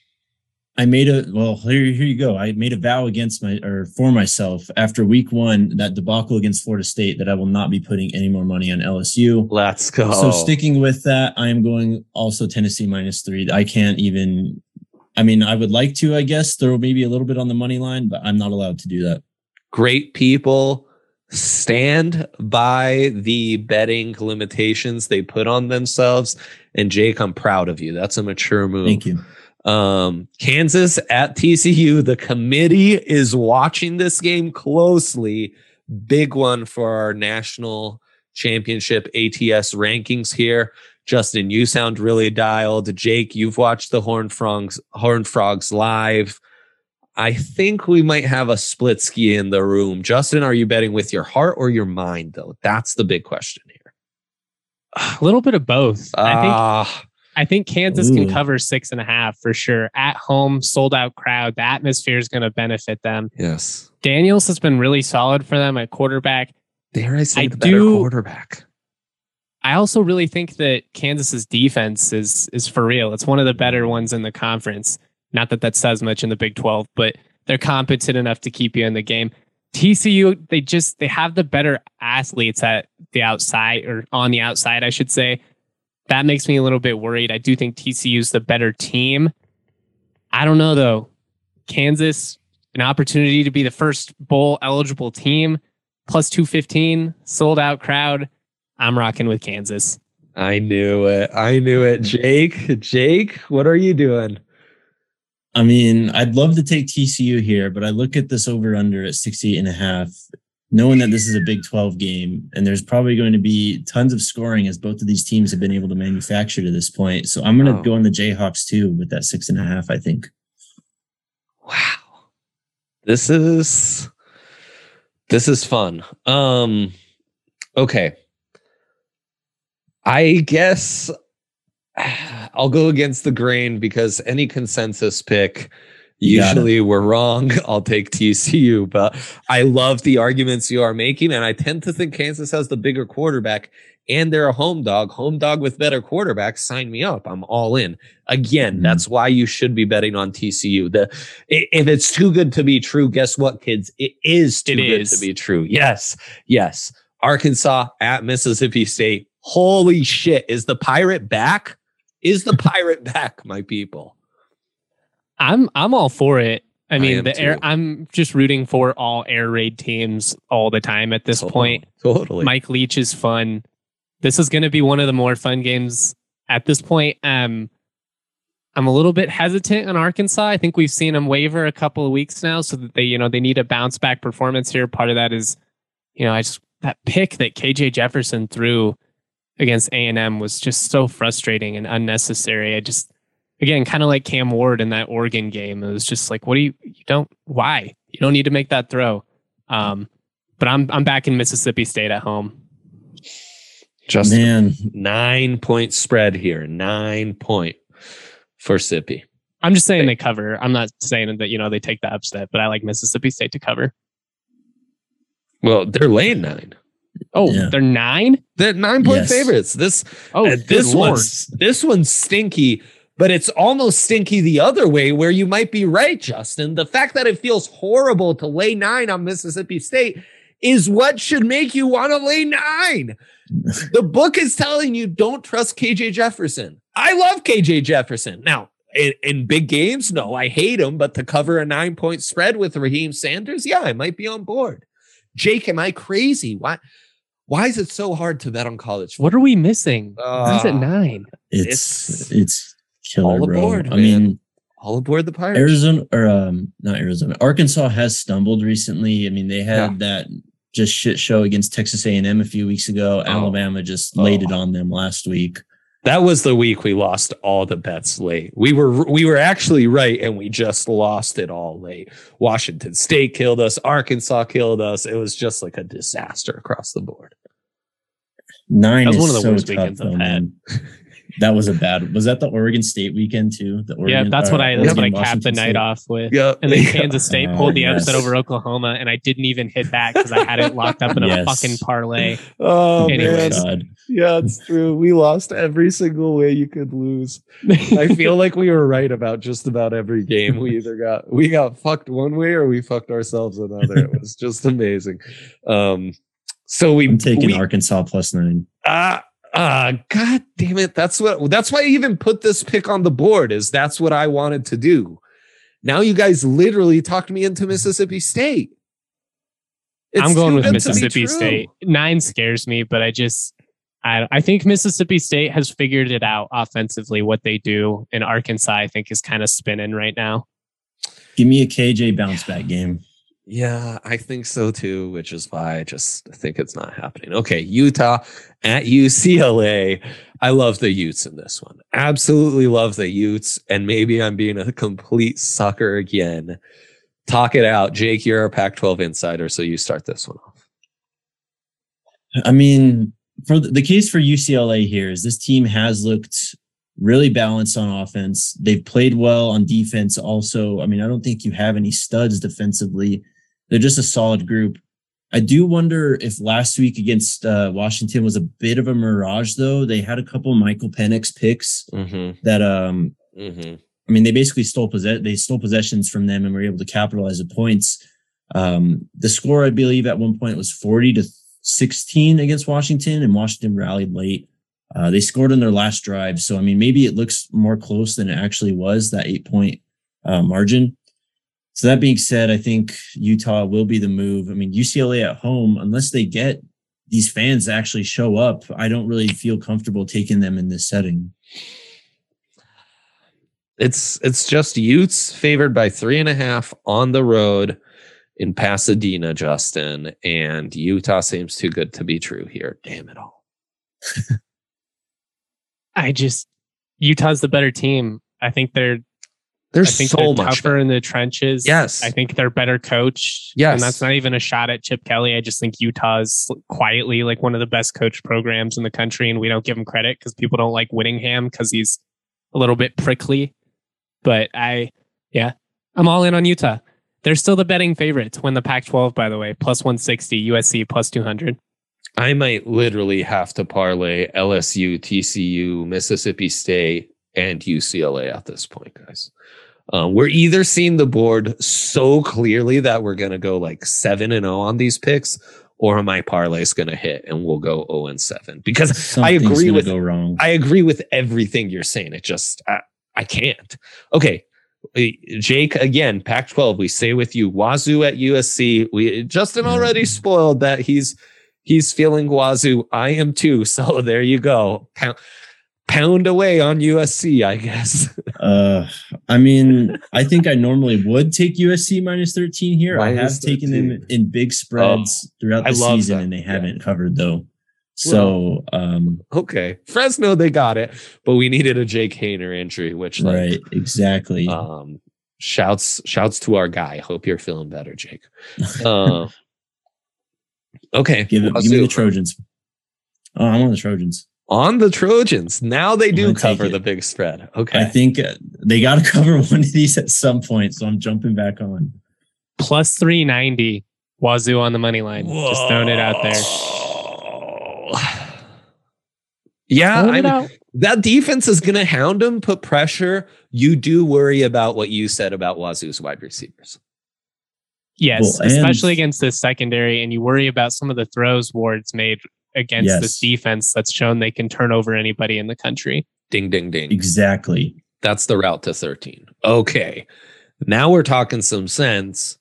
Here you go. I made a vow for myself after week 1, that debacle against Florida State, that I will not be putting any more money on LSU. Let's go. So sticking with that, I am going also Tennessee -3. I can't even, I would like to, I guess, throw maybe a little bit on the money line, but I'm not allowed to do that. Great people stand by the betting limitations they put on themselves. And Jake, I'm proud of you. That's a mature move. Thank you. Kansas at TCU. The committee is watching this game closely. Big one for our national championship ATS rankings here. Justin, you sound really dialed. Jake, you've watched the Horned Frogs live. I think we might have a split ski in the room. Justin, are you betting with your heart or your mind, though? That's the big question here. A little bit of both. I I think Kansas can cover 6.5 for sure. At home, sold out crowd. The atmosphere is going to benefit them. Yes. Daniels has been really solid for them at quarterback. Dare I say the better quarterback? I also really think that Kansas's defense is for real. It's one of the better ones in the conference. Not that says much in the Big 12, but they're competent enough to keep you in the game. TCU, they have the better athletes at the outside, or on the outside, I should say. That makes me a little bit worried. I do think TCU's the better team. I don't know, though. Kansas, an opportunity to be the first bowl eligible team, plus 215, sold out crowd. I'm rocking with Kansas. I knew it. Jake, what are you doing? I mean, I'd love to take TCU here, but I look at this over-under at 68.5, knowing that this is a Big 12 game, and there's probably going to be tons of scoring as both of these teams have been able to manufacture to this point. So I'm going to go on the Jayhawks too with that 6.5, I think. Wow. This is fun. Okay. I guess I'll go against the grain because any consensus pick, usually we're wrong. I'll take TCU, but I love the arguments you are making. And I tend to think Kansas has the bigger quarterback and they're a home dog with better quarterbacks. Sign me up. I'm all in. Again, that's why you should be betting on TCU. If it's too good to be true, guess what, kids? It is too good to be true. Yes. Arkansas at Mississippi State. Holy shit. Is the Pirate back? My people? I'm all for it. I mean, I'm just rooting for all air raid teams all the time at this point. Totally. Mike Leach is fun. This is going to be one of the more fun games at this point. I'm a little bit hesitant on Arkansas. I think we've seen them waver a couple of weeks now, so that they need a bounce back performance here. Part of that is, that pick that KJ Jefferson threw against A&M was just so frustrating and unnecessary. Again, kind of like Cam Ward in that Oregon game. It was just like, why? You don't need to make that throw. But I'm back in Mississippi State at home. Just 9-point spread here. 9 point for Sippy. I'm just saying they cover. I'm not saying that, they take the upset, but I like Mississippi State to cover. Well, they're laying 9. Oh, yeah. They're 9? They're 9-point favorites. This one's stinky, but it's almost stinky the other way where you might be right, Justin. The fact that it feels horrible to lay 9 on Mississippi State is what should make you want to lay 9. The book is telling you don't trust KJ Jefferson. I love KJ Jefferson. Now, in big games, no, I hate him, but to cover a 9-point spread with Raheem Sanders, yeah, I might be on board. Jake, am I crazy? Why is it so hard to bet on college football? What are we missing? Who's at 9? It's killer, all aboard, bro. Man. I mean, all aboard the Pirates. Not Arizona. Arkansas has stumbled recently. I mean, they had that just shit show against Texas A&M a few weeks ago. Alabama just laid it on them last week. That was the week we lost all the bets late. We were actually right, and we just lost it all late. Washington State killed us. Arkansas killed us. It was just like a disaster across the board. 9 that was is one of the so worst tough, weekends I've had. That was was that the Oregon State weekend too? That's what I capped the night off with. Yep. And then Kansas State pulled the upset over Oklahoma, and I didn't even hit back because I had it locked up in a fucking parlay. Oh, anyways. Man. Yeah, it's true. We lost every single way you could lose. I feel like we were right about just about every game. We got fucked one way or we fucked ourselves another. It was just amazing. I'm taking Arkansas plus 9. God damn it. That's why I even put this pick on the board, is that's what I wanted to do. Now you guys literally talked me into Mississippi State. I'm going with Mississippi State. 9 scares me, but I think Mississippi State has figured it out offensively, what they do. And Arkansas, I think, is kind of spinning right now. Give me a KJ bounce back game. Yeah, I think so too, which is why I just think it's not happening. Okay, Utah at UCLA. I love the Utes in this one. Absolutely love the Utes. And maybe I'm being a complete sucker again. Talk it out. Jake, you're a Pac-12 insider, so you start this one off. I mean, for the case for UCLA here is this team has looked really balanced on offense. They've played well on defense also. I mean, I don't think you have any studs defensively. They're just a solid group. I do wonder if last week against Washington was a bit of a mirage, though. They had a couple Michael Penix picks that, I mean, they basically stole possessions from them and were able to capitalize the points. The score, I believe, at one point was 40-16 against Washington, and Washington rallied late. They scored on their last drive. So, I mean, maybe it looks more close than it actually was, that 8-point margin. So that being said, I think Utah will be the move. I mean, UCLA at home, unless they get these fans to actually show up, I don't really feel comfortable taking them in this setting. It's just Utes favored by 3.5 on the road in Pasadena, Justin, and Utah seems too good to be true here. Damn it all. Utah's the better team. I think they're so much tougher in the trenches. Yes. I think they're better coached. Yes. And that's not even a shot at Chip Kelly. I just think Utah's quietly like one of the best coach programs in the country, and we don't give him credit because people don't like Whittingham because he's a little bit prickly. But I'm all in on Utah. They're still the betting favorite to win the Pac-12, by the way, plus 160, USC plus 200. I might literally have to parlay LSU, TCU, Mississippi State, and UCLA at this point, guys. We're either seeing the board so clearly that we're going to go like 7-0 on these picks, or my parlay is going to hit and we'll go 0-7. Because I agree with everything you're saying. It just I can't. Okay, Jake, again, Pac-12. We stay with you. Wazoo at USC. Justin already spoiled that he's feeling Wazoo. I am too. So there you go. Pound away on USC, I guess. I mean, I think I normally would take USC minus 13 here. I have taken them in big spreads throughout the season, and they haven't covered though. So, okay, Fresno, they got it, but we needed a Jake Haener injury, which right, exactly. Shouts to our guy. Hope you're feeling better, Jake. Okay, give me the Trojans. Oh, I'm on the Trojans. On the Trojans. Now they do cover the big spread. Okay. I think they got to cover one of these at some point. So I'm jumping back on. Plus 390. Wazoo on the money line. Whoa. Just throwing it out there. Yeah. That defense is going to hound them, put pressure. You do worry about what you said about Wazoo's wide receivers. Yes, especially against this secondary. And you worry about some of the throws Ward's made against this defense that's shown they can turn over anybody in the country. Ding, ding, ding. Exactly. That's the route to 13. Okay. Now we're talking some sense.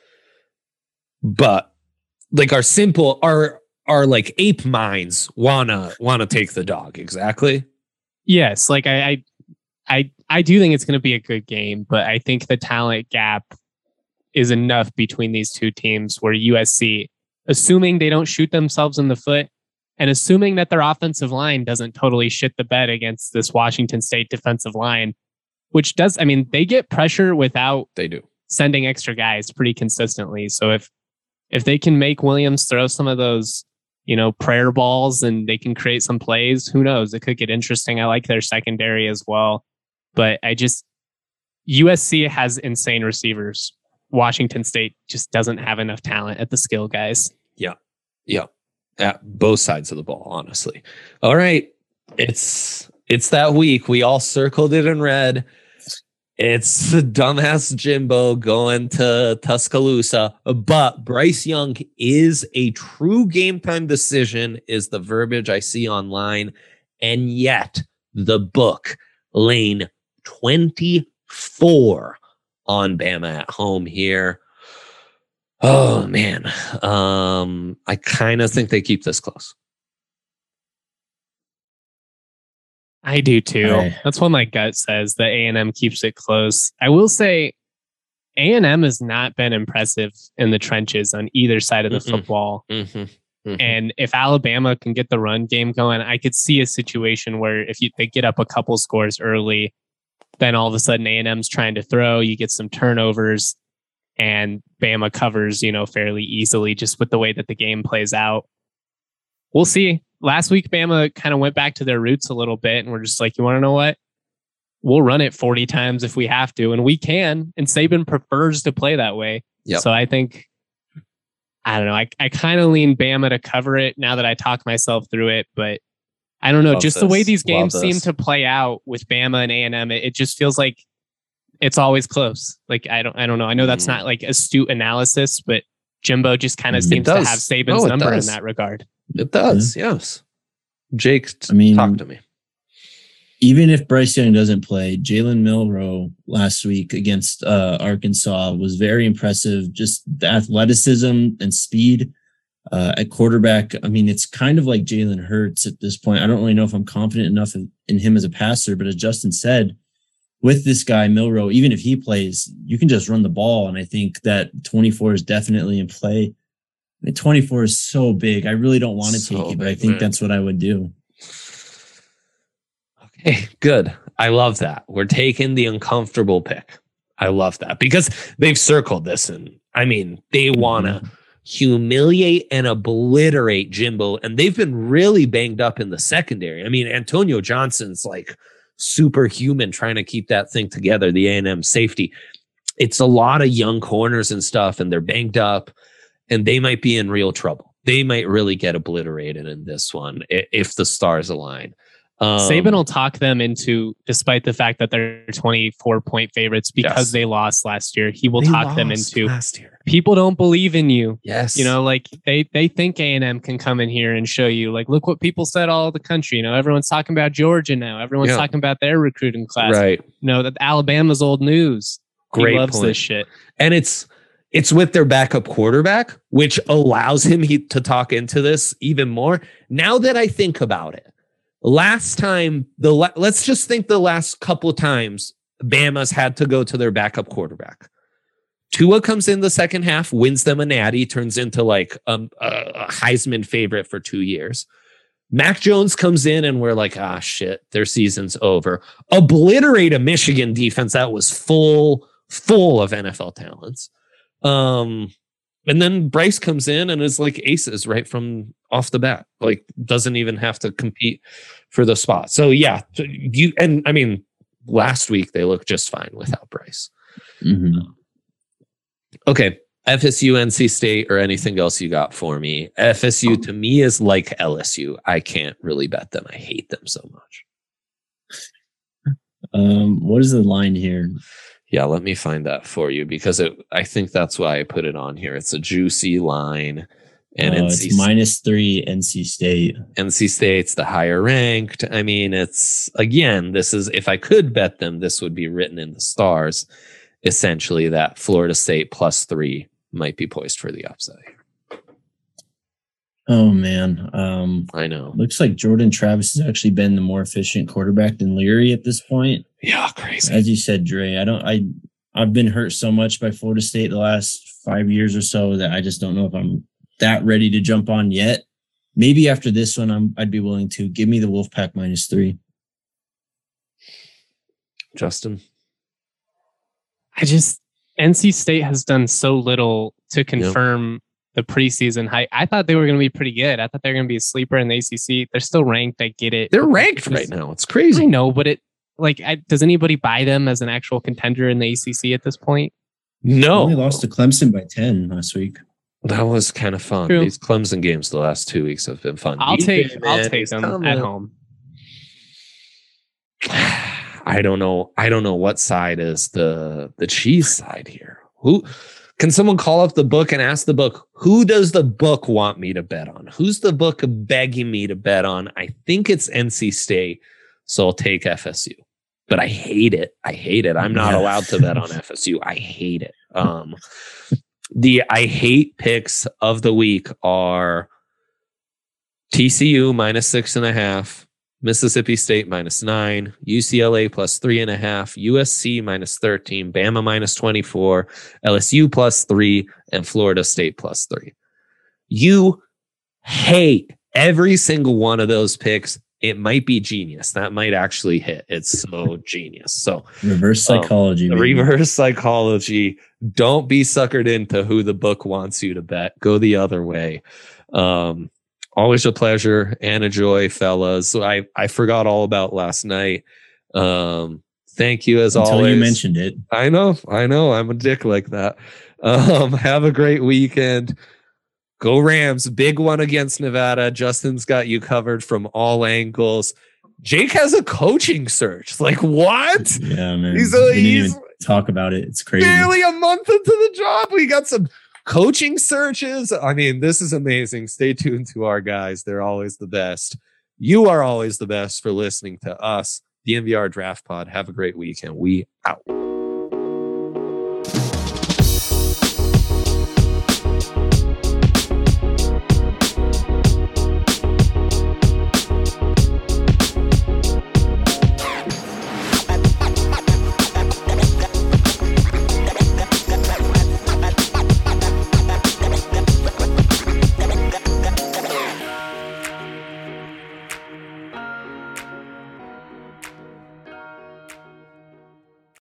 But like our like ape minds wanna take the dog. Exactly. Yes. Like I do think it's gonna be a good game, but I think the talent gap is enough between these two teams where USC, assuming they don't shoot themselves in the foot, and assuming that their offensive line doesn't totally shit the bed against this Washington State defensive line, which does, I mean, they get pressure without sending extra guys pretty consistently. So if they can make Williams throw some of those, prayer balls and they can create some plays, who knows? It could get interesting. I like their secondary as well. But USC has insane receivers. Washington State just doesn't have enough talent at the skill guys. Yeah. At both sides of the ball, honestly. All right. It's that week. We all circled it in red. It's the dumbass Jimbo going to Tuscaloosa. But Bryce Young is a true game time decision, is the verbiage I see online. And yet the book lane 24 on Bama at home here. Oh, man. I kind of think they keep this close. I do too. That's what my gut says, that A&M keeps it close. I will say A&M has not been impressive in the trenches on either side of the football. And if Alabama can get the run game going, I could see a situation where if they get up a couple scores early, then all of a sudden A&M's trying to throw, you get some turnovers, and Bama covers, fairly easily just with the way that the game plays out. we'll see. Last week, Bama kind of went back to their roots a little bit, and we're just like, you want to know what? We'll run it 40 times if we have to, and we can. And Saban prefers to play that way. Yep. So I think, I don't know. I kind of lean Bama to cover it now that I talk myself through it, but I don't know. Just the way these games seem to play out with Bama and A&M, it just feels like it's always close. Like I don't know. I know that's not like astute analysis, but Jimbo just kind of seems to have Saban's number in that regard. It does, yes. Jake, talk to me. Even if Bryce Young doesn't play, Jalen Milroe last week against Arkansas was very impressive. Just the athleticism and speed at quarterback. I mean, it's kind of like Jalen Hurts at this point. I don't really know if I'm confident enough in him as a passer, but as Justin said, with this guy, Milroe, even if he plays, you can just run the ball. And I think that 24 is definitely in play. I mean, 24 is so big. I really don't want to take it, but I think that's what I would do. Okay, good. I love that. We're taking the uncomfortable pick. I love that because they've circled this, and I mean, they want to humiliate and obliterate Jimbo, and they've been really banged up in the secondary. I mean, Antonio Johnson's like superhuman trying to keep that thing together, the A&M safety. It's a lot of young corners and stuff, and they're banged up, and they might be in real trouble. They might really get obliterated in this one if the stars align. Saban will talk them into, despite the fact that they're 24-point favorites because they lost last year. He will talk them into people don't believe in you. Yes, you know, like they think A&M can come in here and show you, like, look what people said all over the country. You know, everyone's talking about Georgia now. Everyone's talking about their recruiting class. Right? You know that Alabama's old news. Great he loves point. This shit, and it's with their backup quarterback, which allows him to talk into this even more. Now that I think about it. Last time, let's just think the last couple of times Bama's had to go to their backup quarterback. Tua comes in the second half, wins them a natty, turns into like a Heisman favorite for 2 years. Mac Jones comes in and we're like, shit, their season's over. Obliterate a Michigan defense that was full of NFL talents. And then Bryce comes in and is like aces right from off the bat, like doesn't even have to compete for the spot. So yeah, I mean, last week they looked just fine without Bryce. Mm-hmm. Okay. FSU, NC State, or anything else you got for me? FSU to me is like LSU. I can't really bet them. I hate them so much. What is the line here? Yeah, let me find that for you because I think that's why I put it on here. It's a juicy line. And it's -3 NC State. NC State's the higher ranked. I mean, this is, if I could bet them, this would be written in the stars. Essentially, that Florida State +3 might be poised for the upside. Oh, man. I know. Looks like Jordan Travis has actually been the more efficient quarterback than Leary at this point. Yeah, crazy. As you said, Dre, I've been hurt so much by Florida State the last 5 years or so that I just don't know if I'm that ready to jump on yet. Maybe after this one, I'd be willing to. Give me the Wolfpack -3. Justin? NC State has done so little to confirm the preseason hype. I thought they were going to be pretty good. I thought they were going to be a sleeper in the ACC. They're still ranked. I get it. They're ranked right now. It's crazy. I know, but does anybody buy them as an actual contender in the ACC at this point? No. They lost to Clemson by 10 last week. That was kind of fun. True. These Clemson games the last 2 weeks have been fun. I'll take them at home. I don't know what side is the cheese side here. Who can someone call up the book and ask the book, who does the book want me to bet on? Who's the book begging me to bet on? I think it's NC State, so I'll take FSU. But I hate it. I'm not allowed to bet on FSU. I hate it. The I hate picks of the week are TCU -6.5, Mississippi State -9, UCLA +3.5, USC -13, Bama -24, LSU +3, and Florida State +3. You hate every single one of those picks. It might be genius. That might actually hit. It's so genius. So reverse psychology. Reverse psychology. Don't be suckered into who the book wants you to bet. Go the other way. Always a pleasure and a joy, fellas. I forgot all about last night. Thank you as always. Until you mentioned it. I know. I'm a dick like that. Have a great weekend. Go Rams. Big one against Nevada. Justin's got you covered from all angles. Jake has a coaching search. Like, what? Yeah, man. He's didn't even talk about it. It's crazy. Barely a month into the job. We got some coaching searches. I mean, this is amazing. Stay tuned to our guys. They're always the best. You are always the best for listening to us, the NVR Draft Pod. Have a great weekend. We out.